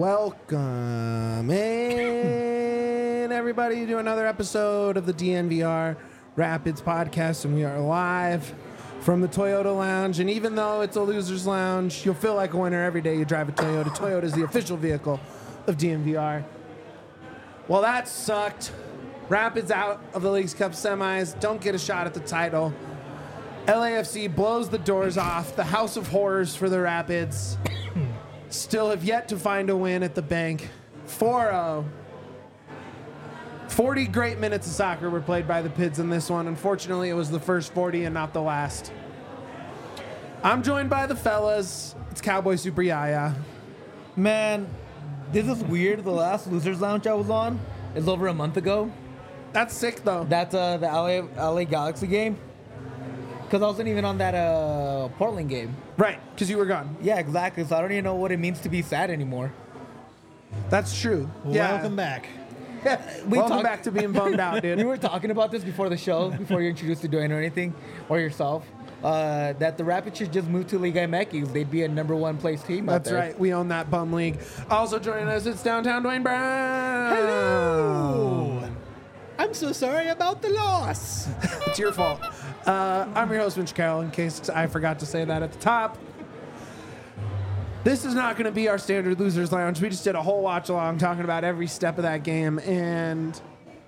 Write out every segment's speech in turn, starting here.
Welcome in, everybody, to another episode of the DNVR Rapids podcast, and we are live from the Toyota Lounge. And even though it's a loser's lounge, you'll feel like a winner every day you drive a Toyota. Toyota is the official vehicle of DNVR. Well, that sucked. Rapids out of the Leagues Cup semis, don't get a shot at the title. LAFC blows the doors off, the house of horrors for the Rapids. Still have yet to find a win at the bank. 4-0. 40 great minutes of soccer were played by the Pids in this one. Unfortunately, it was the first 40 and not the last. I'm joined by the fellas. It's Cowboy Super Yaya. Man, this is weird. The last Losers Lounge I was on is over a month ago. That's sick, though. That's the LA Galaxy game. Because I wasn't even on that Portland game. Right, because you were gone. Yeah, exactly. So I don't even know what it means to be sad anymore. That's true. Welcome back. Welcome back to being bummed out, dude. We were talking about this before the show, before you introduced to Dwayne or anything, or yourself, that the Rapids should just move to Liga MX. They'd be a number one place team out there. That's right. We own that bum league. Also joining us, it's downtown Dwayne Brown. Hello. I'm so sorry about the loss. It's your fault. I'm your host, Mitch Carroll, in case I forgot to say that at the top. This is not going to be our standard Losers Lounge. We just did a whole watch along talking about every step of that game, and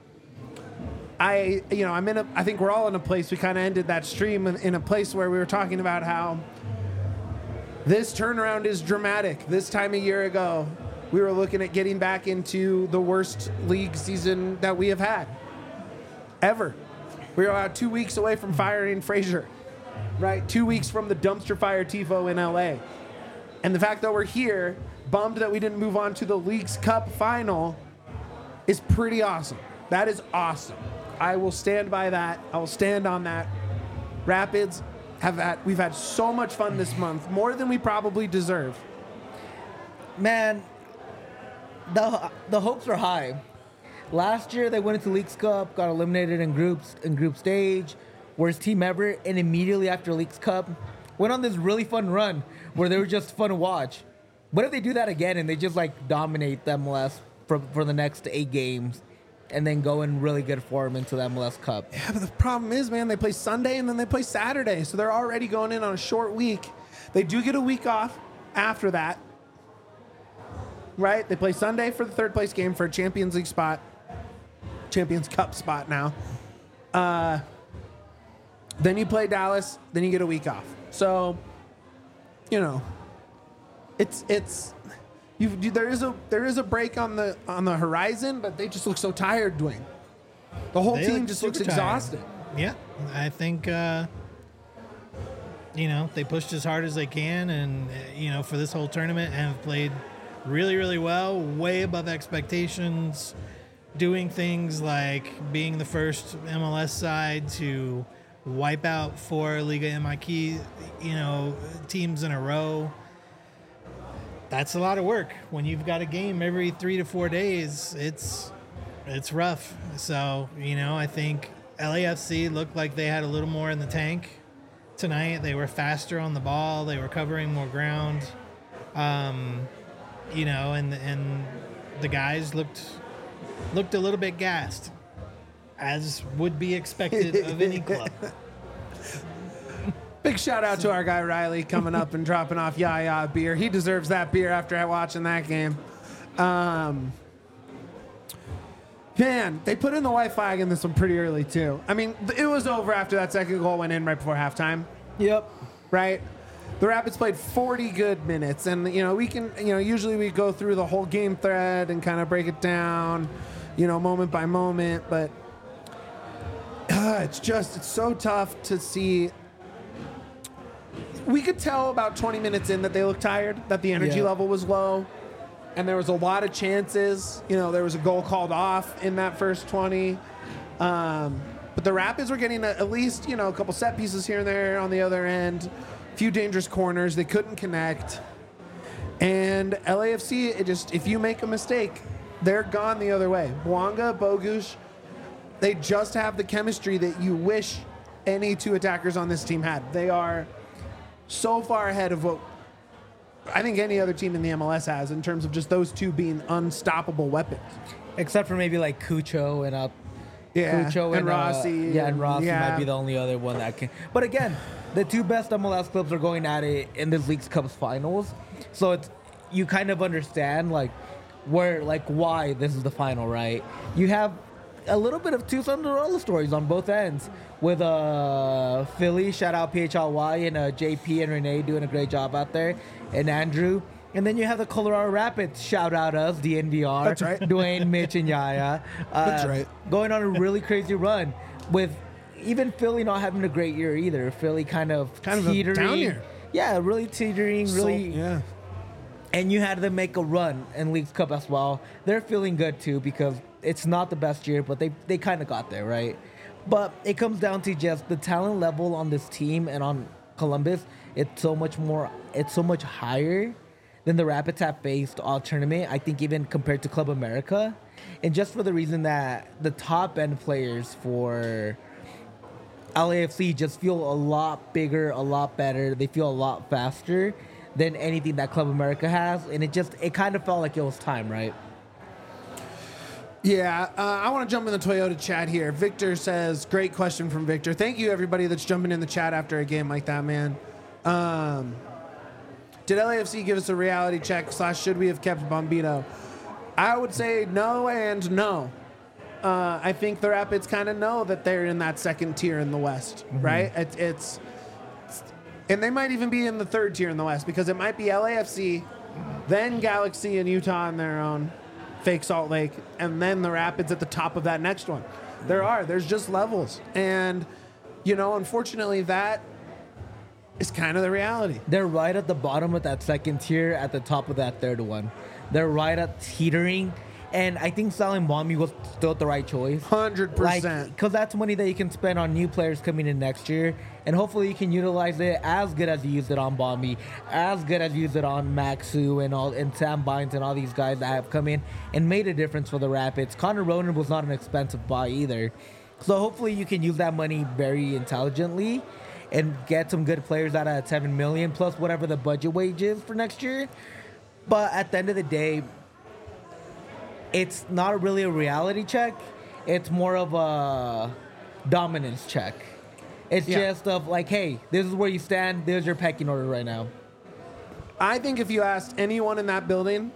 I think we're all in a place, we kind of ended that stream in a place where we were talking about how this turnaround is dramatic. This time a year ago, we were looking at getting back into the worst league season that we have had ever. We were about 2 weeks away from firing Frazier, right? 2 weeks from the dumpster fire tifo in LA. And the fact that we're here, bummed that we didn't move on to the Leagues Cup final, is pretty awesome. That is awesome. I will stand by that. I will stand on that. Rapids we've had so much fun this month, more than we probably deserve. Man, the hopes are high. Last year they went into Leagues Cup, got eliminated in group stage, worst team ever, and immediately after Leagues Cup went on this really fun run where they were just fun to watch. What if they do that again and they just dominate the MLS for the next 8 games and then go in really good form into the MLS Cup? Yeah, but the problem is, man, they play Sunday and then they play Saturday, so they're already going in on a short week. They do get a week off after that, right? They play Sunday for the third place game for a Champions League spot. Champions Cup spot now. Then you play Dallas, then you get a week off. So, there is a break on the horizon, but they just look so tired, Dwayne. The whole team just looks exhausted. Yeah, I think they pushed as hard as they can, and for this whole tournament, and have played really, really well, way above expectations. Doing things like being the first MLS side to wipe out 4 Liga MX, teams in a row. That's a lot of work. When you've got a game every 3 to 4 days, it's rough. So, I think LAFC looked like they had a little more in the tank tonight. They were faster on the ball. They were covering more ground. And the guys looked a little bit gassed, as would be expected of any club. Big shout out to our guy Riley coming up and dropping off Yaya beer. He deserves that beer after watching that game. Man, they put in the white flag in this one pretty early too. I mean, it was over after that second goal went in right before halftime. Yep. Right? The Rapids played 40 good minutes, and we can, usually we go through the whole game thread and kind of break it down, moment by moment, but it's so tough to see. We could tell about 20 minutes in that they looked tired, that the energy level was low, and there was a lot of chances. There was a goal called off in that first 20. But the Rapids were getting at least, a couple set pieces here and there on the other end. Few dangerous corners. They couldn't connect. And LAFC, if you make a mistake, they're gone the other way. Bouanga, Bogusz, they just have the chemistry that you wish any two attackers on this team had. They are so far ahead of what I think any other team in the MLS has in terms of just those two being unstoppable weapons. Except for maybe like Cucho and Cucho and Rossi. and Rossi might be the only other one that can. But again, the two best MLS clubs are going at it in this Leagues Cup finals, so it's you kind of understand why this is the final, right? You have a little bit of two Cinderella stories on both ends with Philly, shout out PHLY, and JP and Renee doing a great job out there, and Andrew. And then you have the Colorado Rapids, shout out us, DNVR. That's right. Dwayne, Mitch, and Yaya. That's right. Going on a really crazy run with even Philly not having a great year either. Philly kind of a teetering. down year. Yeah, really teetering, Yeah. And you had them make a run in Leagues Cup as well. They're feeling good too because it's not the best year, but they kind of got there, right? But it comes down to just the talent level on this team and on Columbus. It's so much higher than the Rapids have faced all tournament. I think even compared to Club America, and just for the reason that the top end players for LAFC just feel a lot bigger, a lot better. They feel a lot faster than anything that Club America has, and it kind of felt like it was time, right? Yeah, I want to jump in the Toyota chat here. Victor says, great question from Victor. Thank you, everybody that's jumping in the chat after a game like that, man. Did LAFC give us a reality check / should we have kept Bombino? I would say no and no. I think the Rapids kind of know that they're in that second tier in the West, right? And they might even be in the third tier in the West because it might be LAFC, then Galaxy and Utah on their own, fake Salt Lake, and then the Rapids at the top of that next one. There's just levels. And, unfortunately, that is kind of the reality. They're right at the bottom of that second tier, at the top of that third one. They're right at teetering. And I think selling Bombi was still the right choice. 100%. Because that's money that you can spend on new players coming in next year. And hopefully you can utilize it as good as you used it on Bombi, as good as you used it on Maxu and Sam Bynes and all these guys that have come in and made a difference for the Rapids. Connor Ronan was not an expensive buy either. So hopefully you can use that money very intelligently and get some good players out of $7 million plus whatever the budget wage is for next year. But at the end of the day, it's not really a reality check. It's more of a dominance check. It's just of like, hey, this is where you stand. There's your pecking order right now. I think if you asked anyone in that building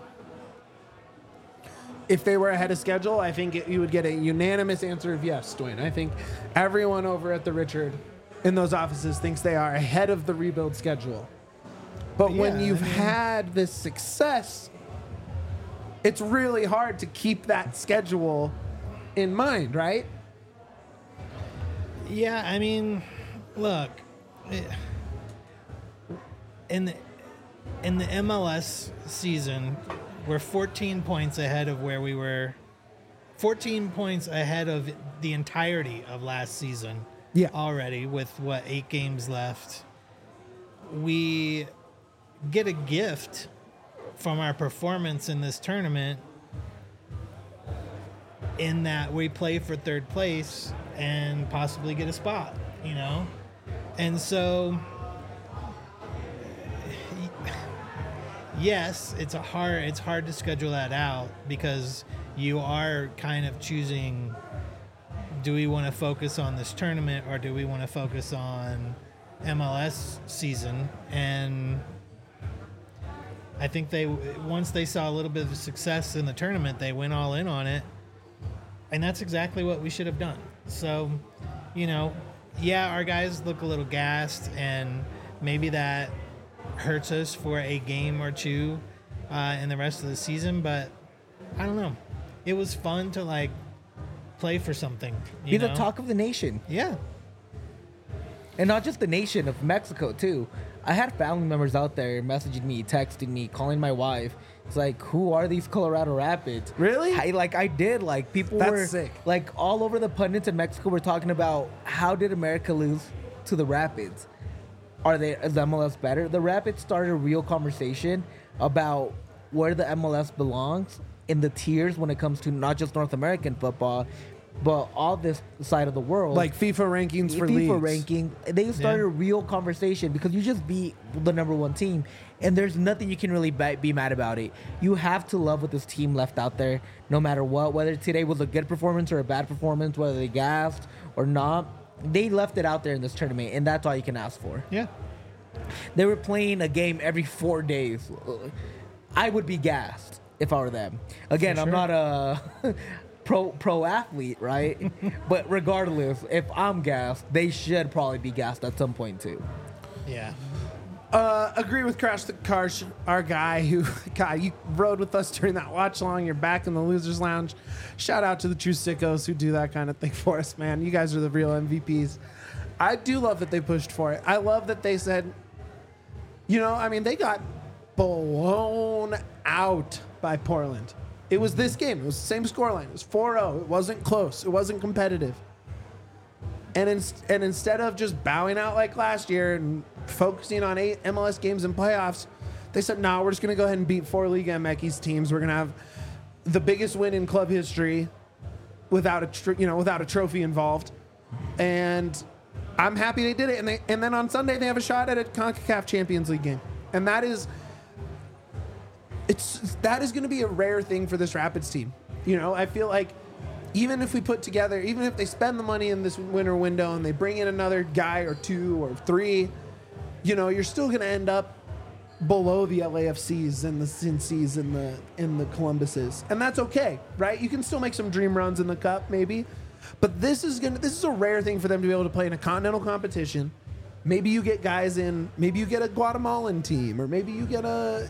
if they were ahead of schedule, I think you would get a unanimous answer of yes, Dwayne. I think everyone over at the Richard in those offices thinks they are ahead of the rebuild schedule. But when you've had this success, it's really hard to keep that schedule in mind, right? Yeah, I mean, look, in the MLS season, we're 14 points ahead of where we were, 14 points ahead of the entirety of last season already with, 8 games left. We get a gift from our performance in this tournament in that we play for third place and possibly get a spot, And so, yes, it's hard to schedule that out because you are kind of choosing, do we want to focus on this tournament or do we want to focus on MLS season? And I think once they saw a little bit of success in the tournament, they went all in on it. And that's exactly what we should have done. So, our guys look a little gassed, and maybe that hurts us for a game or two in the rest of the season. But I don't know. It was fun to, play for something. Be the talk of the nation. Yeah. And not just the nation, of Mexico, too. I had family members out there messaging me, texting me, calling my wife. It's like, who are these Colorado Rapids? Really? I did. People That's were sick. All over the pundits in Mexico were talking about how did America lose to the Rapids? Is MLS better? The Rapids started a real conversation about where the MLS belongs in the tiers when it comes to not just North American football, but all this side of the world, Like FIFA rankings for FIFA leagues. ranking, they started a real conversation because you just beat the number one team, and there's nothing you can really be mad about it. You have to love what this team left out there, no matter what. Whether today was a good performance or a bad performance, whether they gassed or not, they left it out there in this tournament, and that's all you can ask for. Yeah. They were playing a game every 4 days. I would be gassed if I were them. Again, I'm not a pro athlete, right? But regardless, if I'm gassed, they should probably be gassed at some point too. Yeah. Agree with Crash the Cars, our guy who, God, you rode with us during that watch along. You're back in the Losers Lounge. Shout out to the true sickos who do that kind of thing for us, man. You guys are the real MVPs. I do love that they pushed for it. I love that they said, you know, I mean, they got blown out by Portland. It was this game. It was the same scoreline. It was 4-0. It wasn't close. It wasn't competitive. And instead of just bowing out like last year and focusing on 8 MLS games and playoffs, they said, no, we're just going to go ahead and beat 4 Liga MX teams. We're going to have the biggest win in club history without a trophy involved. And I'm happy they did it. And then on Sunday they have a shot at a CONCACAF Champions League game. And that is going to be a rare thing for this Rapids team. You know, I feel like even if they spend the money in this winter window and they bring in another guy or 2 or 3, you know, you're still going to end up below the LAFCs and the Cincy's and the Columbuses. And that's okay, right? You can still make some dream runs in the cup maybe. But this is a rare thing for them to be able to play in a continental competition. Maybe you get guys in, maybe you get a Guatemalan team, or maybe you get an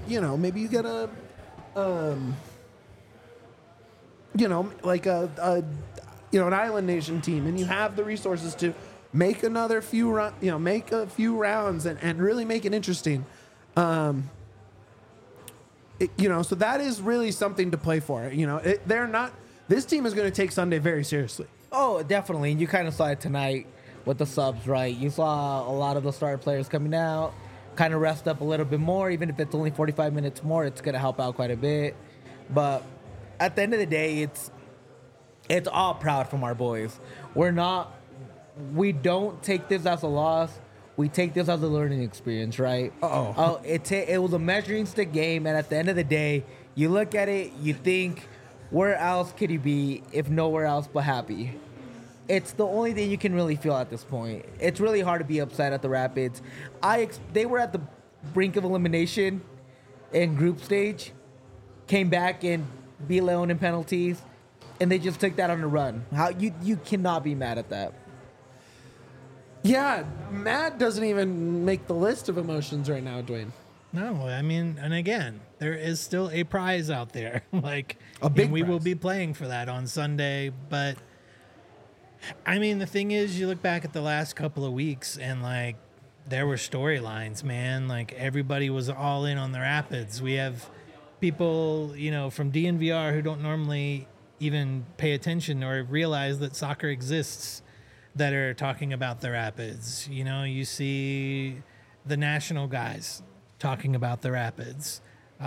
island nation team, and you have the resources to make a few rounds and really make it interesting. So that is really something to play for. You know, this team is going to take Sunday very seriously. Oh, definitely. And you kind of saw it tonight with the subs, right? You saw a lot of the starter players coming out, kind of rest up a little bit more. Even if it's only 45 minutes more, it's going to help out quite a bit. But at the end of the day, it's all proud from our boys. We don't take this as a loss. We take this as a learning experience, right? It was a measuring stick game, and at the end of the day, you look at it, you think, where else could he be if nowhere else but happy? It's the only thing you can really feel at this point. It's really hard to be upset at the Rapids. They were at the brink of elimination in group stage, came back and beat Leon in penalties, and they just took that on the run. How you cannot be mad at that. Yeah, mad doesn't even make the list of emotions right now, Dwayne. No, I mean, and again, there is still a prize out there. Like, a big and we prize. will be playing for that on Sunday. But I mean, the thing is, you look back at the last couple of weeks, and like, there were storylines, man. Like, everybody was all in on the Rapids. We have people, you know, from DNVR who don't normally even pay attention or realize that soccer exists that are talking about the Rapids. You know, you see the national guys talking about the Rapids.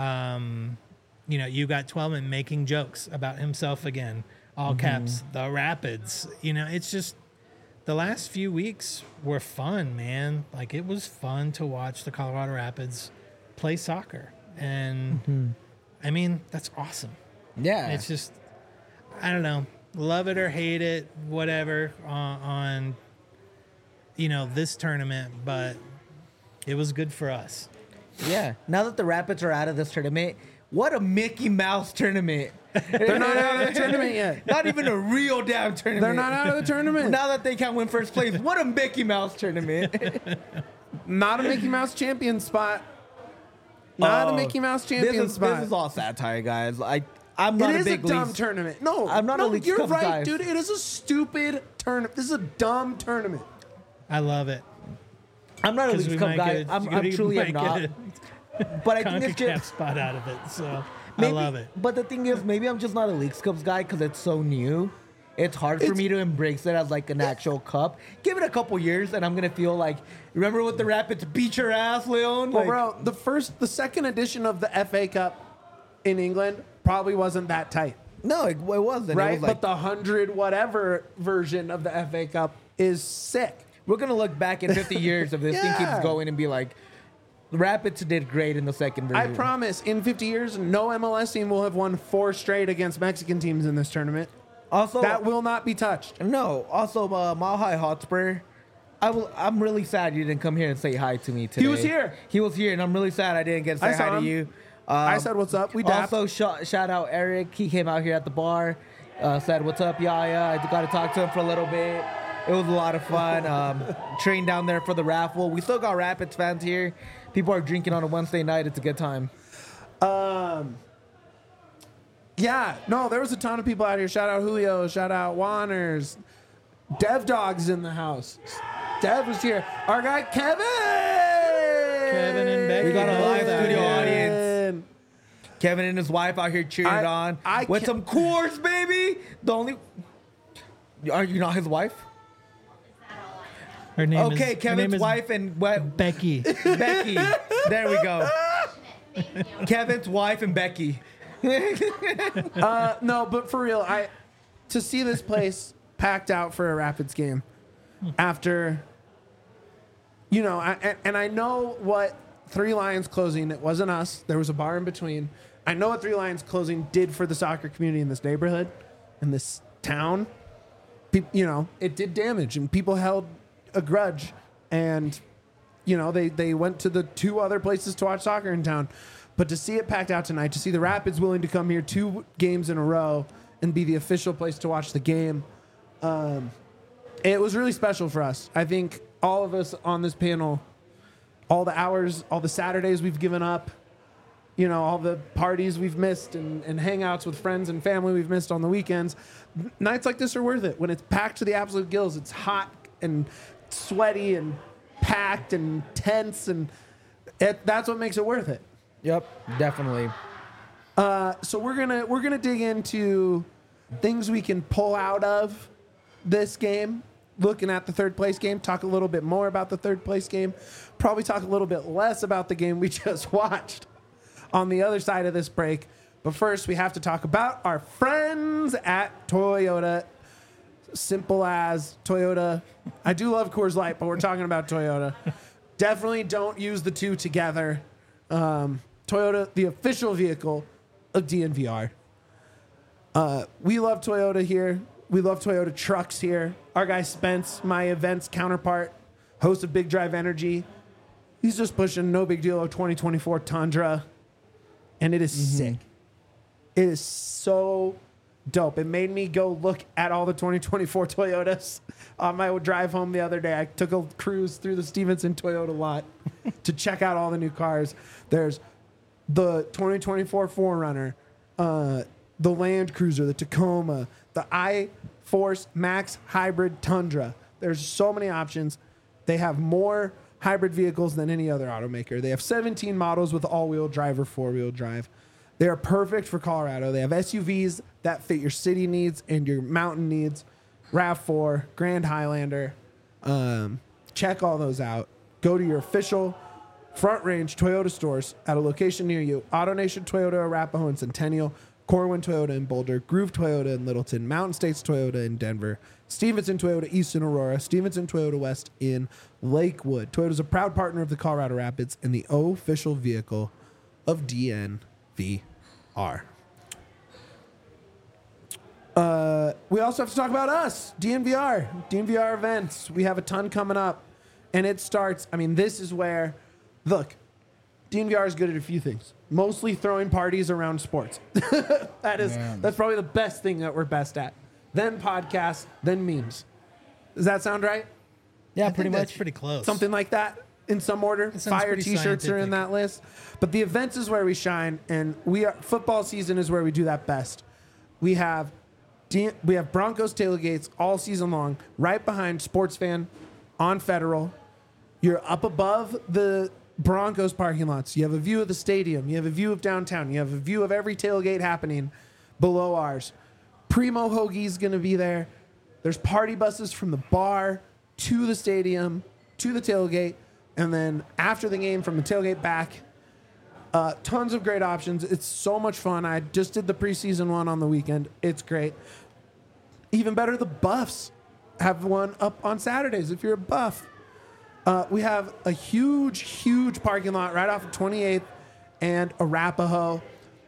You got Twellman making jokes about himself again, all caps, the Rapids. You know, it's just the last few weeks were fun, man. Like, it was fun to watch the Colorado Rapids play soccer. And I mean, that's awesome. Yeah. It's just, I don't know, love it or hate it, whatever on this tournament, but it was good for us. Yeah. Now that the Rapids are out of this tournament, what a Mickey Mouse tournament. They're not out of the tournament yet. Not even a real damn tournament. They're not out of the tournament. Now that they can't win first place, what a Mickey Mouse tournament. Not a Mickey Mouse champion spot. Not a Mickey Mouse champion spot. This is all satire, guys. I'm not It a is big a dumb leagues. tournament. No, I'm not a Leagues You're Cup right, guy. dude. It is a stupid tournament. This is a dumb tournament. I love it. I'm not a 'Cause Leagues we Cup might guy. get I'm truly am not. But I think it's CONCACAF just spot out of it, so maybe, I love it. But the thing is, maybe I'm just not a Leagues Cups guy because it's so new. It's hard for me to embrace it as like an actual cup. Give it a couple years, and I'm gonna feel like, remember what the Rapids beat your ass, Leon? Well, Like, bro, the second edition of the FA Cup in England probably wasn't that tight. No, it wasn't. right? It was like, But the 100 whatever version of the FA Cup is sick. we're going to look back in 50 years if this thing Yeah. keeps going and be like, the Rapids did great in the second version. I promise, in 50 years, no MLS team will have won 4 straight against Mexican teams in this tournament. Also, That will not be touched. no. Also, Mile High Hotspur. I'm really sad you didn't come here and say hi to me today. He was here. He was here, and I'm really sad I didn't get to I say saw hi to him. you. I said, what's up? We dapped. Also, shout out Eric. He came out here at the bar, said, "What's up, Yaya?" I got to talk to him for a little bit. It was a lot of fun. Trained down there for the raffle. We still got Rapids fans here. People are drinking on a Wednesday night. It's a good time. Yeah, no, there was a ton of people out here. Shout out Julio. Shout out Wanners. Dev Dog's in the house. Dev was here. Our guy Kevin. Kevin and Becky. We got a live both studio out here. audience. Kevin and his wife out here cheering on I with can't- some Coors, baby. The only. Are you not his wife? Her name Okay, is, Kevin's wife and what? Becky. Becky. There we go. Kevin's wife and Becky. No, but for real, to see this place packed out for a Rapids game after, and I know what Three Lions closing, it wasn't us. There was a bar in between. I know what Three Lions closing did for the soccer community in this neighborhood, in this town. It did damage, and people held a grudge, and they went to the 2 other places to watch soccer in town. But to see it packed out tonight, to see the Rapids willing to come here 2 games in a row and be the official place to watch the game, it was really special for us. I think all of us on this panel, all the hours, all the Saturdays we've given up, all the parties we've missed and hangouts with friends and family we've missed on the weekends, nights like this are worth it. When it's packed to the absolute gills, it's hot and sweaty and packed and tense, and that's what makes it worth it. Yep, definitely. So we're gonna dig into things we can pull out of this game. Looking at the third place game, talk a little bit more about the third place game. Probably talk a little bit less about the game we just watched on the other side of this break. But first, we have to talk about our friends at Toyota. Simple as Toyota. I do love Coors Light, but we're talking about Toyota. Definitely don't use the 2 together. Toyota, the official vehicle of DNVR. We love Toyota here. We love Toyota trucks here. Our guy Spence, my events counterpart, host of Big Drive Energy. He's just pushing no big deal of 2024 Tundra. And it is sick. It is so dope. It made me go look at all the 2024 Toyotas on my drive home the other day. I took a cruise through the Stevenson Toyota lot to check out all the new cars. There's the 2024 4Runner, the Land Cruiser, the Tacoma, the iForce Max Hybrid Tundra. There's so many options. They have more hybrid vehicles than any other automaker. They have 17 models with all-wheel drive or four-wheel drive. They are perfect for Colorado. They have SUVs that fit your city needs and your mountain needs. RAV4, Grand Highlander. Check all those out. Go to your official Front Range Toyota stores at a location near you. AutoNation Toyota Arapahoe and Centennial. Corwin Toyota in Boulder. Groove Toyota in Littleton. Mountain States Toyota in Denver. Stevenson Toyota East in Aurora. Stevenson Toyota West in Lakewood. Toyota is a proud partner of the Colorado Rapids and the official vehicle of DNVR. We also have to talk about us, DNVR events. We have a ton coming up, and it starts. This is where, look, DNVR is good at a few things. Mostly throwing parties around sports. That's probably the best thing that we're best at. Then podcasts, then memes. Does that sound right? Yeah, I pretty think much. that's pretty close. Something like that in some order. sounds Fire pretty t-shirts are in scientific. that list. But the events is where we shine, and football season is where we do that best. We have Broncos tailgates all season long, right behind Sports Fan on Federal. You're up above the Broncos parking lots. You have a view of the stadium. You have a view of downtown. You have a view of every tailgate happening below ours. Primo Hoagie's going to be there. There's party buses from the bar to the stadium, to the tailgate, and then after the game from the tailgate back. Tons of great options. It's so much fun. I just did the preseason one on the weekend. It's great. Even better, the Buffs have one up on Saturdays if you're a Buff. We have a huge parking lot right off of 28th and Arapahoe.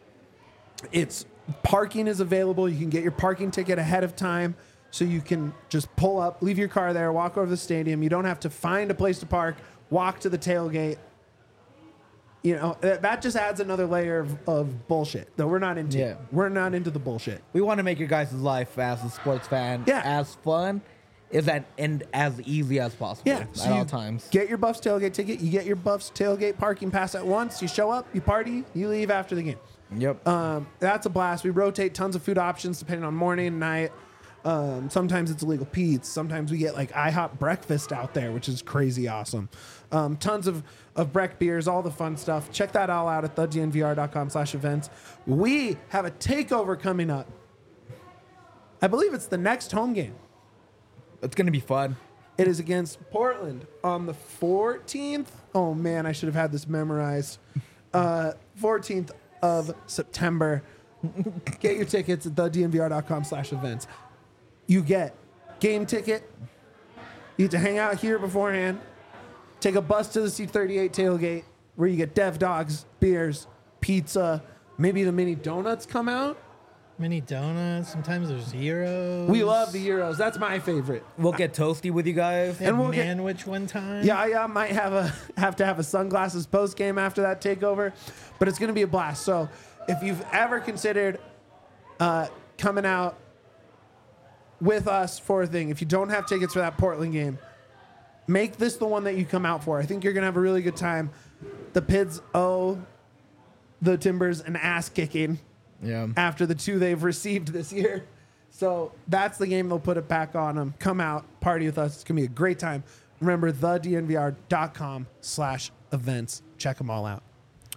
Parking is available. You can get your parking ticket ahead of time, so you can just pull up, leave your car there, walk over to the stadium. You don't have to find a place to park, walk to the tailgate. You know, that just adds another layer of bullshit that we're not into. Yeah. We're not into the bullshit. We want to make your guys' life as a sports fan as fun and as easy as possible at all times. Get your Buffs tailgate ticket. You get your Buffs tailgate parking pass at once. You show up, you party, you leave after the game. Yep. That's a blast. We rotate tons of food options depending on morning and night. Sometimes it's illegal Pete's. Sometimes we get like IHOP breakfast out there, which is crazy awesome. Tons of Breck beers, all the fun stuff. Check that all out at thednvr.com/events. We have a takeover coming up. I believe it's the next home game. It's going to be fun. It is against Portland on the 14th. Oh, man, I should have had this memorized. 14th of September. Get your tickets at thednvr.com/events. You get game ticket. You get to hang out here beforehand. Take a bus to the C38 tailgate where you get dev dogs, beers, pizza. Maybe the mini donuts come out. Mini donuts. Sometimes there's gyros. We love the gyros. That's my favorite. We'll get toasty with you guys. They had and we'll get- Manwich one time. Yeah, I might have to have a sunglasses post game after that takeover, but it's going to be a blast. So if you've ever considered coming out with us for a thing, if you don't have tickets for that Portland game, make this the one that you come out for. I think you're going to have a really good time. The Pids owe the Timbers an ass kicking after the two they've received this year. So that's the game they'll put it back on them. Come out, party with us. It's going to be a great time. Remember, thednvr.com/events. Check them all out.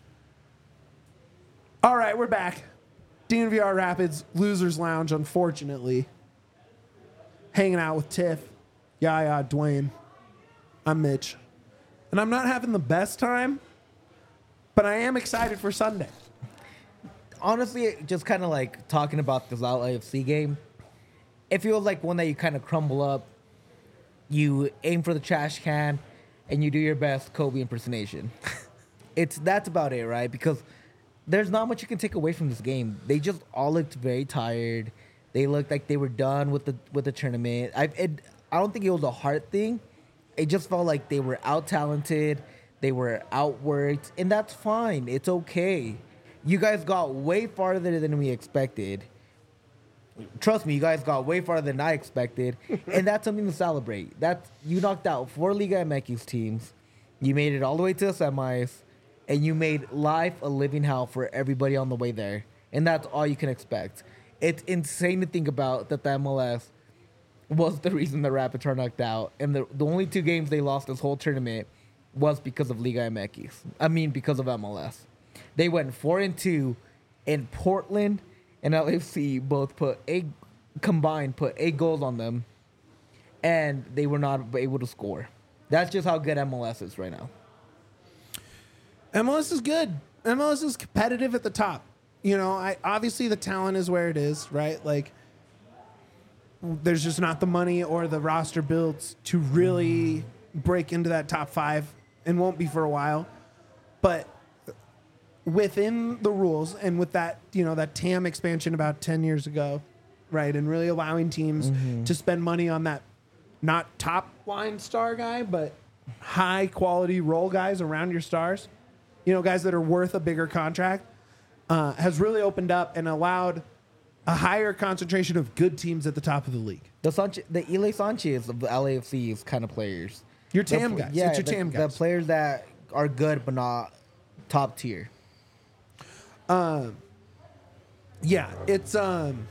All right, we're back. DNVR Rapids Losers Lounge, unfortunately. Hanging out with Tiff, Yaya, Dwayne. I'm Mitch. And I'm not having the best time, but I am excited for Sunday. Honestly, just kind of like talking about this LAFC game, it feels like one that you kind of crumble up, you aim for the trash can, and you do your best Kobe impersonation. That's about it, right? Because there's not much you can take away from this game. They just all looked very tired. They looked like they were done with the tournament. I don't think it was a heart thing. It just felt like they were out talented, they were outworked, and that's fine. It's okay. You guys got way farther than we expected. Trust me, you guys got way farther than I expected, and that's something to celebrate. You knocked out 4 Liga MX teams, you made it all the way to the semis, and you made life a living hell for everybody on the way there, and that's all you can expect. It's insane to think about that the MLS was the reason the Rapids are knocked out, and the only 2 games they lost this whole tournament was because of Liga MX. I mean, because of MLS. They went 4-2, and Portland and LAFC both put 8 goals on them, and they were not able to score. That's just how good MLS is right now. MLS is good. MLS is competitive at the top. You know, obviously the talent is where it is, right? Like, there's just not the money or the roster builds to really break into that top 5, and won't be for a while. But within the rules and with that, you know, that TAM expansion about 10 years ago, right, and really allowing teams to spend money on that, not top line star guy, but high quality role guys around your stars, you know, guys that are worth a bigger contract, has really opened up and allowed a higher concentration of good teams at the top of the league. The Ile Sanchez of the LAFC's kind of players. Your TAM guys. Yeah, it's your TAM guys. The players that are good but not top tier. Yeah, it's fun,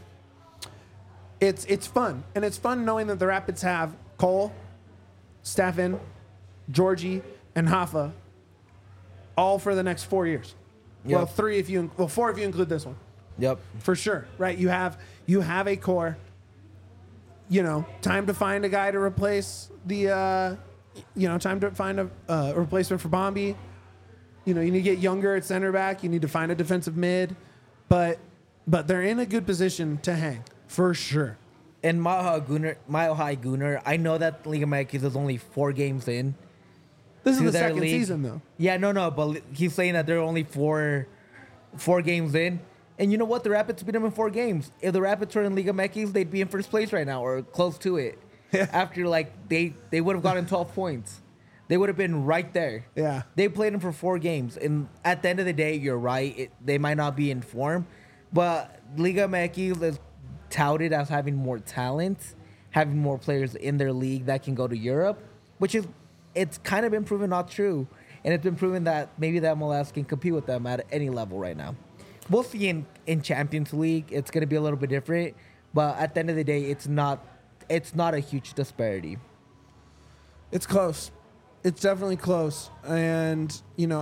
and it's fun knowing that the Rapids have Cole, Stefan, Georgie, and Hoffa, all for the next 4 years. Yep. Well, 4 if you include this one. Yep. For sure, right? You have a core. You know, time to find a guy to replace time to find a replacement for Bombi. You need to get younger at center back. You need to find a defensive mid, but they're in a good position to hang for sure. And Mile High Gunnar, I know that Liga MX is only 4 games in. This is to the their second league. season, though. Yeah, no, but he's saying that they're only four games in. And you know what? The Rapids beat them in 4 games. If the Rapids were in Liga MX, they'd be in first place right now or close to it. After, they would have gotten 12 points. They would have been right there. Yeah. They played them for 4 games. And at the end of the day, you're right. They might not be in form. But Liga MX is touted as having more talent, having more players in their league that can go to Europe, it's kind of been proven not true. And it's been proven that maybe the MLS can compete with them at any level right now. We'll see in Champions League. It's going to be a little bit different. But at the end of the day, it's not a huge disparity. It's close. It's definitely close. And,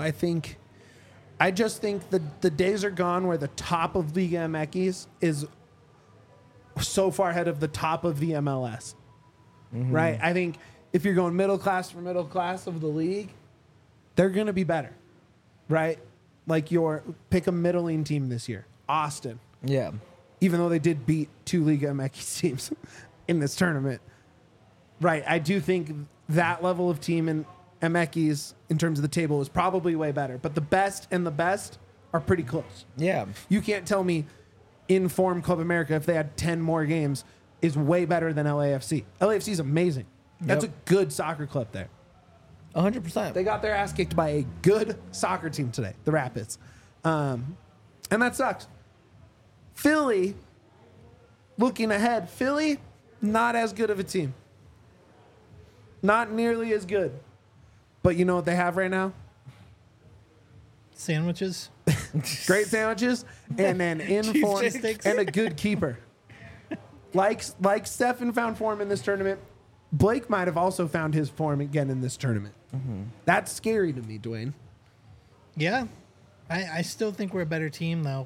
I just think the days are gone where the top of Liga MX is so far ahead of the top of the MLS. Mm-hmm. Right? I think if you're going middle class for middle class of the league, they're going to be better. Right? Like pick a middling team this year. Austin. Yeah. Even though they did beat 2 Liga MX teams in this tournament. Right. I do think that level of team in MX in terms of the table is probably way better. But the best and the best are pretty close. Yeah. You can't tell me in-form Club America, if they had 10 more games, is way better than LAFC. LAFC is amazing. That's a good soccer club there. 100%. They got their ass kicked by a good soccer team today, the Rapids. And that sucks. Philly, looking ahead, Philly, not as good of a team. Not nearly as good. But you know what they have right now? Sandwiches. Great sandwiches and an in-form sticks. and a good keeper. Like Stefan found form in this tournament, Blake might have also found his form again in this tournament. Mm-hmm. That's scary to me, Dwayne. Yeah. I still think we're a better team, though.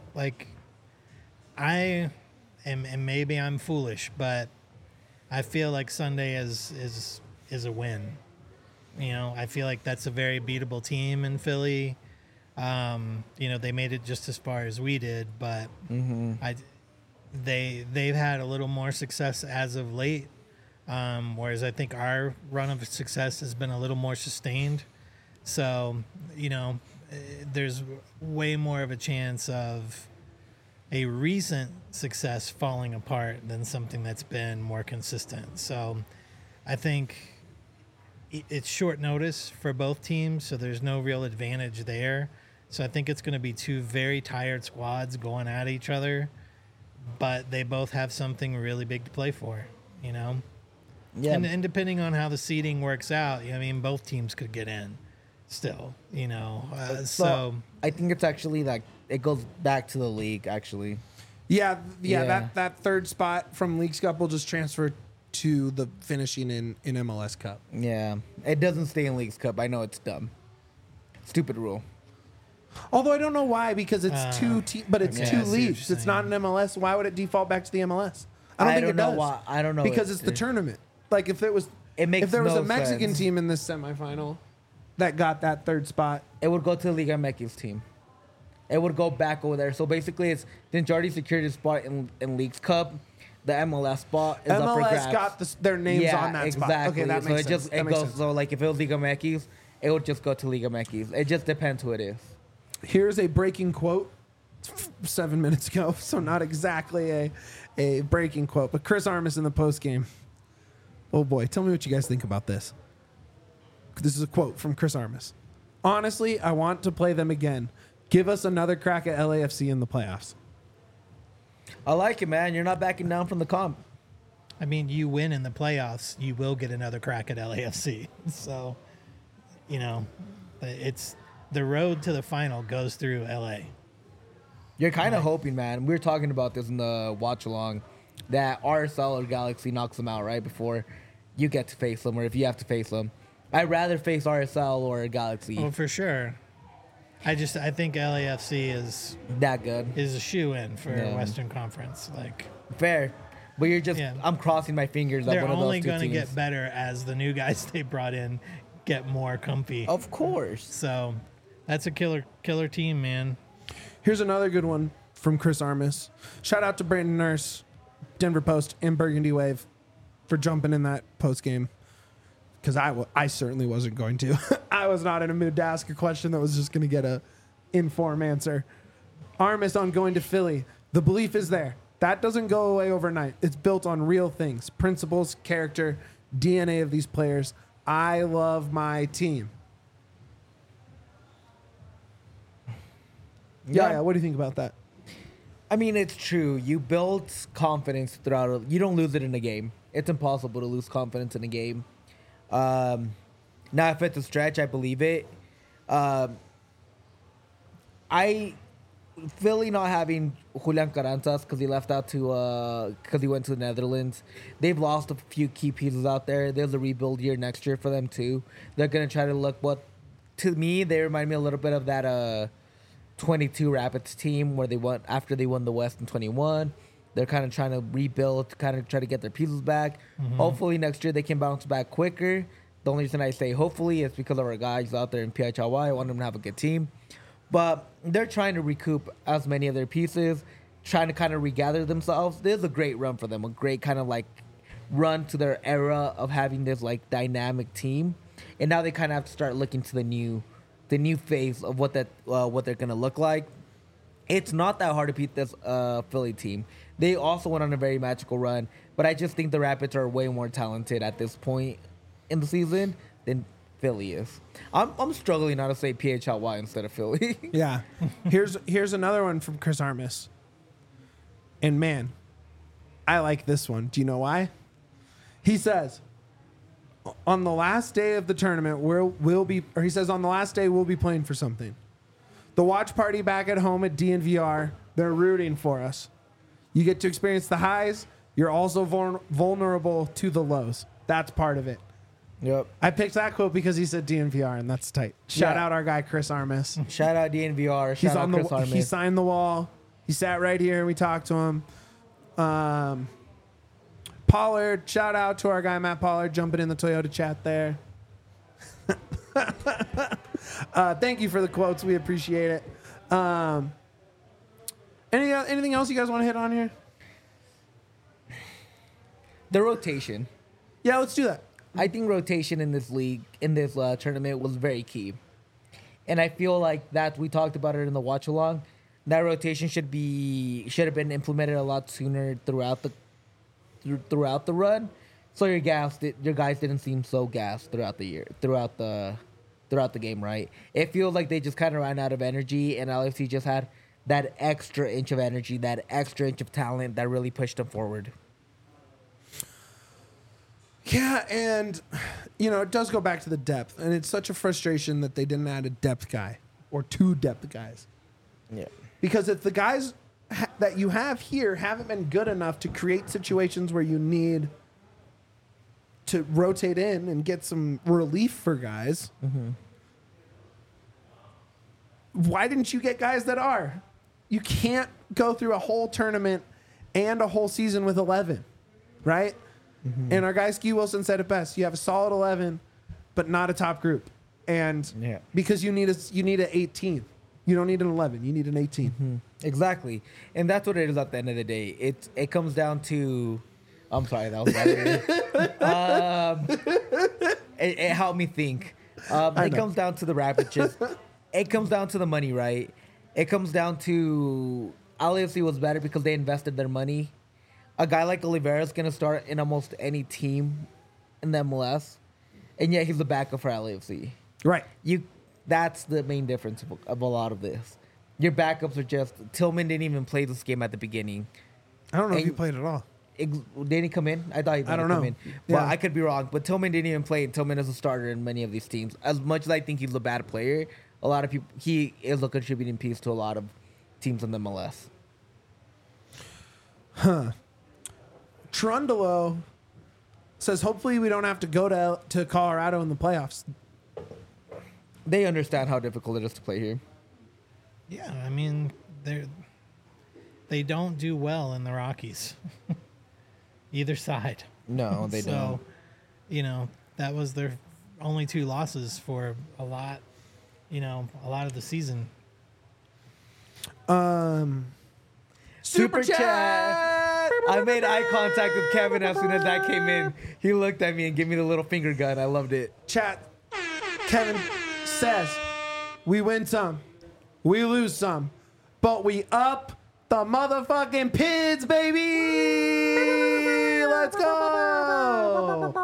And maybe I'm foolish, but I feel like Sunday is a win. I feel like that's a very beatable team in Philly. They made it just as far as we did, but they've had a little more success as of late, whereas I think our run of success has been a little more sustained. So, there's way more of a chance of a recent success falling apart than something that's been more consistent. So I think it's short notice for both teams, so there's no real advantage there. So I think it's going to be 2 very tired squads going at each other, but they both have something really big to play for, Yeah. And depending on how the seeding works out, both teams could get in still, so I think it's actually it goes back to the league, actually. Yeah. That third spot from Leagues Cup will just transfer to the finishing in MLS Cup. Yeah. It doesn't stay in Leagues Cup. I know it's dumb. Stupid rule. Although I don't know why, because it's but it's yeah, 2 I see what leagues. you're It's not an MLS. Why would it default back to the MLS? I don't think it know does. why. I don't know. Because it's the tournament. Like if there was a no Mexican sense. team in this semifinal that got that third spot, It would go to the Liga MX team. It would go back over there. So basically, since you already secured a spot in Leagues Cup, the MLS spot is up for grabs. MLS got their names on that spot. Exactly. Okay, that makes sense. That makes sense. So if it was Liga MX, it would just go to Liga MX. It just depends who it is. Here's a breaking quote 7 minutes ago, so not exactly a breaking quote, but Chris Armas in the post game. Oh boy, tell me what you guys think about this. This is a quote from Chris Armas. Honestly, I want to play them again. Give us another crack at LAFC in the playoffs. I like it, man. You're not backing down from the comp. You win in the playoffs, you will get another crack at LAFC. So, it's the road to the final goes through LA. You're kind of hoping, man. We were talking about this in the watch along, that RSL or Galaxy knocks them out right before you get to face them, or if you have to face them. I'd rather face RSL or Galaxy. Oh, for sure. I think LAFC is That good. a shoe-in for Western Conference. Fair. But I'm crossing my fingers that They're one of those only two going to teams. get better as the new guys they brought in get more comfy. Of course. So That's a killer team, man. Here's another good one from Chris Armas. Shout out to Brandon Nurse, Denver Post, and Burgundy Wave for jumping in that post game. Because I certainly wasn't going to. I was not in a mood to ask a question that was just going to get a informed answer. Armas on going to Philly. The belief is there. That doesn't go away overnight. It's built on real things, principles, character, DNA of these players. I love my team. Yeah. What do you think about that? I mean, it's true. You build confidence throughout. You don't lose it in a game. It's impossible to lose confidence in a game. Now, if it's a stretch, I believe it. Philly not having Julian Carranzas because he left out to because he went to the Netherlands. They've lost a few key pieces out there. There's a rebuild year next year for them too. They're gonna try to look what, to me, they remind me a little bit of that 22 Rapids team where they won after they won the West in 21. They're kind of trying to rebuild, kind of try to get their pieces back. Mm-hmm. Hopefully next year they can bounce back quicker. The only reason I say hopefully is because of our guys out there in PHLY. I want them to have a good team. But they're trying to recoup as many of their pieces, trying to kind of regather themselves. There's a great run for them, a great kind of like run to their era of having this like dynamic team. And now they kind of have to start looking to the new phase of what they're going to look like. It's not that hard to beat this Philly team. They also went on a very magical run, but I just think the Rapids are way more talented at this point in the season than Philly is. I'm struggling now to say PHLY instead of Philly. Yeah. Here's another one from Chris Armas. And man, I like this one. Do you know why? He says, on the last day of the tournament, he says on the last day we'll be playing for something. The watch party back at home at DNVR, they're rooting for us. You get to experience the highs. You're also vulnerable to the lows. That's part of it. Yep. I picked that quote because he said DNVR, and that's tight. Shout out our guy, Chris Armas. Shout out DNVR. Shout out Chris Armas. He signed the wall. He sat right here, and we talked to him. Pollard, shout out to our guy, Matt Pollard, jumping in the Toyota chat there. Thank you for the quotes. We appreciate it. Anything else you guys want to hit on here? The rotation. Yeah, let's do that. I think rotation in this league, in this tournament, was very key. And I feel like that we talked about it in the watch along. That rotation should have been implemented a lot sooner throughout the run. So your guys didn't seem so gassed throughout the year, throughout the game, right? It feels like they just kind of ran out of energy, and LFC just had that extra inch of energy, that extra inch of talent that really pushed them forward. Yeah, and, it does go back to the depth. And it's such a frustration that they didn't add a depth guy or two depth guys. Yeah. Because if the guys that you have here haven't been good enough to create situations where you need to rotate in and get some relief for guys, why didn't you get guys that are? You can't go through a whole tournament and a whole season with 11, right? Mm-hmm. And our guy Ski Wilson said it best. You have a solid 11, but not a top group. And because you need an 18. You don't need an 11. You need an 18. Mm-hmm. Exactly. And that's what it is at the end of the day. It comes down to... I'm sorry, that was bad. It helped me think. It comes down to the Rapids. It comes down to the money, right? It comes down to... LAFC was better because they invested their money. A guy like Oliveira is going to start in almost any team in the MLS, and yet he's the backup for LAFC. Right. That's the main difference of a lot of this. Your backups are just... Tillman didn't even play this game at the beginning. I don't know if he played at all. Did he come in? I thought he didn't come in. But I could be wrong. But Tillman didn't even play. Tillman is a starter in many of these teams. As much as I think he's a bad player, a lot of people... He is a contributing piece to a lot of teams in the MLS. Huh. Trundalo says, hopefully we don't have to go to Colorado in the playoffs. They understand how difficult it is to play here. Yeah, I mean, they don't do well in the Rockies. Either side. No, they don't. So, that was their only two losses for a lot, a lot of the season. Super chat. I made eye contact with Kevin as soon as that came in. He looked at me and gave me the little finger gun. I loved it. Chat. Kevin says, we win some, we lose some, but we up the motherfucking PIDs, baby. Let's go.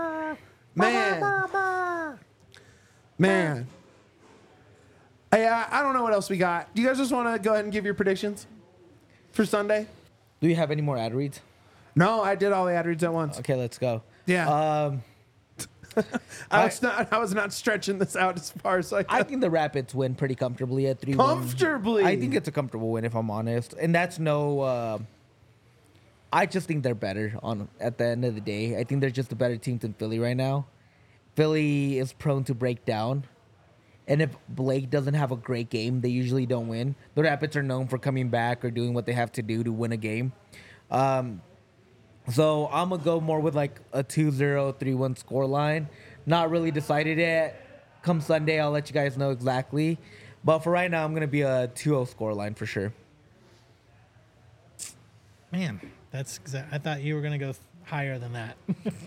Man. Hey, I don't know what else we got. Do you guys just want to go ahead and give your predictions for Sunday? Do you have any more ad reads? No, I did all the ad reads at once. Okay, let's go. Yeah. I was not stretching this out as far as I could. I think the Rapids win pretty comfortably at 3-1. Comfortably. I think it's a comfortable win, if I'm honest. And that's no... I just think they're better at the end of the day. I think they're just a better team than Philly right now. Philly is prone to break down. And if Blake doesn't have a great game, they usually don't win. The Rapids are known for coming back or doing what they have to do to win a game. So I'm going to go more with like a 2-0, 3-1 scoreline. Not really decided yet. Come Sunday, I'll let you guys know exactly. But for right now, I'm going to be a 2-0 scoreline for sure. Man, I thought you were going to go higher than that.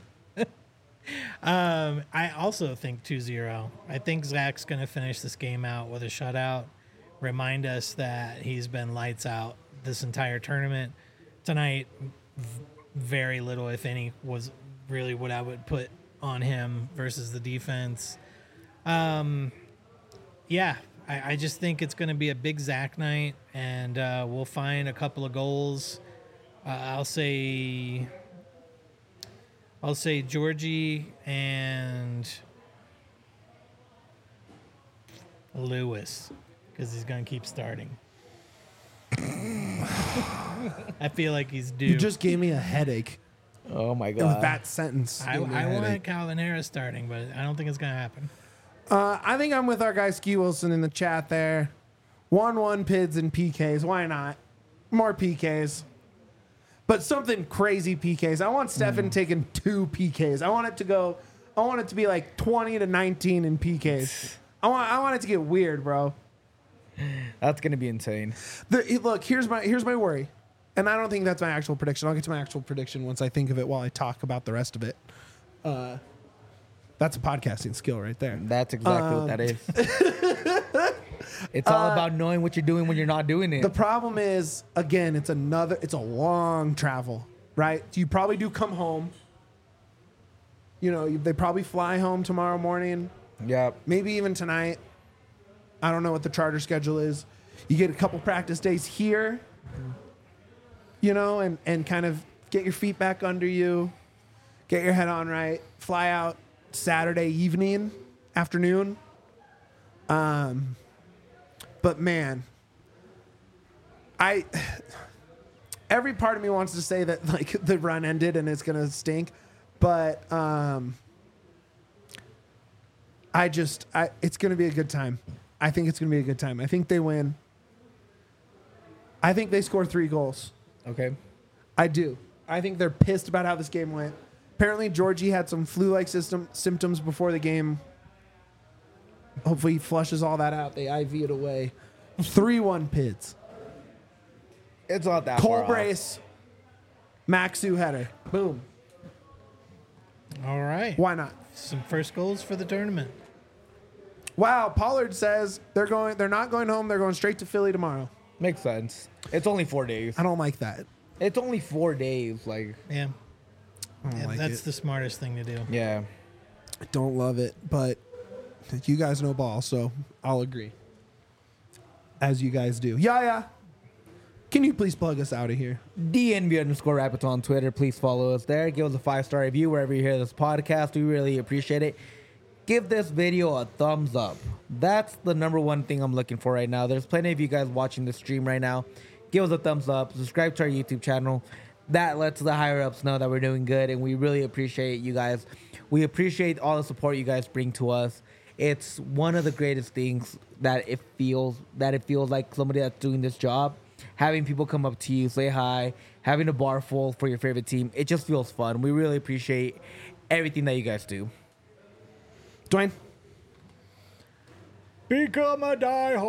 I also think 2-0. I think Zach's going to finish this game out with a shutout. Remind us that he's been lights out this entire tournament. Tonight, very little, if any, was really what I would put on him versus the defense. I just think it's going to be a big Zach night, and we'll find a couple of goals. I'll say Georgie and Lewis, because he's going to keep starting. I feel like he's due. You just gave me a headache. Oh, my With God. that sentence. I want Calvin Harris starting, but I don't think it's going to happen. I think I'm with our guy Ski Wilson in the chat there. 1-1 PIDs and PKs. Why not? More PKs. But something crazy PKs. I want Stefan taking 2 PKs. I want it to be like 20-19 in PKs. I want it to get weird, bro. That's going to be insane. Look, here's my worry. And I don't think that's my actual prediction. I'll get to my actual prediction once I think of it while I talk about the rest of it. That's a podcasting skill right there. That's exactly what that is. It's all about knowing what you're doing when you're not doing it. The problem is, again, it's a long travel, right? You probably do come home. They probably fly home tomorrow morning. Yeah. Maybe even tonight. I don't know what the charter schedule is. You get a couple practice days here, and kind of get your feet back under you, get your head on right, fly out Saturday afternoon. But man, every part of me wants to say that like the run ended and it's gonna stink, but it's gonna be a good time. I think it's gonna be a good time. I think they win. I think they score 3 goals. Okay. I do. I think they're pissed about how this game went. Apparently, Georgie had some flu-like symptoms before the game. Hopefully, he flushes all that out. They IV it away. 3-1 PIDs. It's not that Cole far Brace, Maxu header. Boom. All right. Why not? Some first goals for the tournament. Wow, Pollard says they're not going home. They're going straight to Philly tomorrow. Makes sense. It's only 4 days. I don't like that. It's only 4 days. Like, Yeah. I don't like That's it. the smartest thing to do. yeah. I don't love it, but you guys know ball, so I'll agree. As you guys do. Yeah. Can you please plug us out of here? DNB_Rapids on Twitter. Please follow us there. Give us a 5-star review wherever you hear this podcast. We really appreciate it. Give this video a thumbs up. That's the number one thing I'm looking for right now. There's plenty of you guys watching the stream right now. Give us a thumbs up. Subscribe to our YouTube channel. That lets the higher ups know that we're doing good, and we really appreciate you guys. We appreciate all the support you guys bring to us. It's one of the greatest things that it feels like somebody that's doing this job. Having people come up to you, say hi, having a bar full for your favorite team. It just feels fun. We really appreciate everything that you guys do. Dwayne? Become a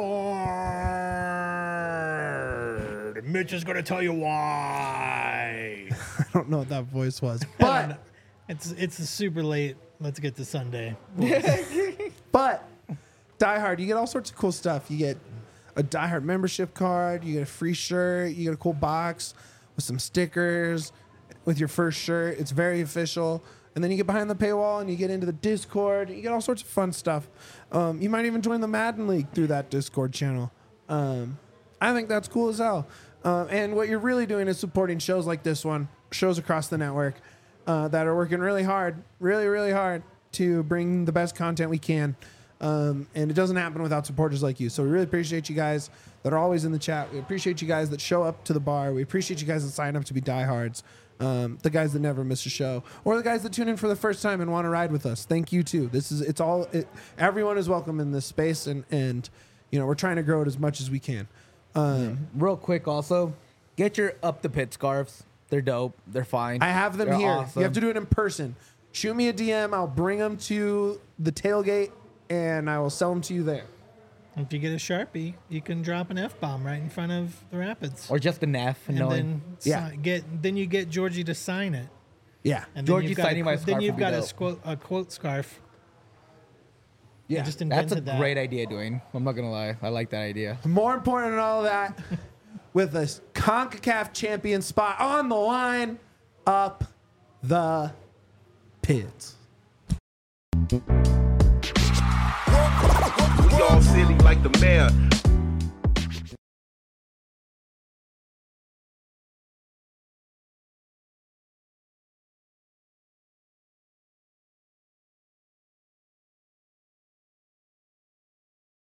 diehard. Mitch is gonna tell you why. I don't know what that voice was, but It's super late. Let's get to Sunday. but Die Hard, you get all sorts of cool stuff. You get a Die Hard membership card. You get a free shirt. You get a cool box with some stickers with your first shirt. It's very official. And then you get behind the paywall and you get into the Discord. You get all sorts of fun stuff. You might even join the Madden League through that Discord channel. I think that's cool as hell. And what you're really doing is supporting shows like this one, shows across the network that are working really hard, really hard to bring the best content we can. And it doesn't happen without supporters like you. So we really appreciate you guys that are always in the chat. We appreciate you guys that show up to the bar. We appreciate you guys that sign up to be diehards. The guys that never miss a show, or the guys that tune in for the first time and want to ride with us. Thank you too. Everyone is welcome in this space, and you know, we're trying to grow it as much as we can. Real quick, also, get your Up the Pit scarves. They're dope. They're fine. I have them They're here. awesome. You have to do it in person. Shoot me a DM. I'll bring them to the tailgate, and I will sell them to you there. If you get a Sharpie, you can drop an F-bomb right in front of the Rapids. Or just an F. And then Yeah. then you get Georgie to sign it. Yeah. And Georgie you've got signing my then scarf you've would be got dope. a quote scarf. Yeah. I just That's invented a that. great idea, Dwayne. I'm not going to lie. I like that idea. More important than all of that, with a CONCACAF champion spot on the line, Up the Pits. We all silly like the mayor.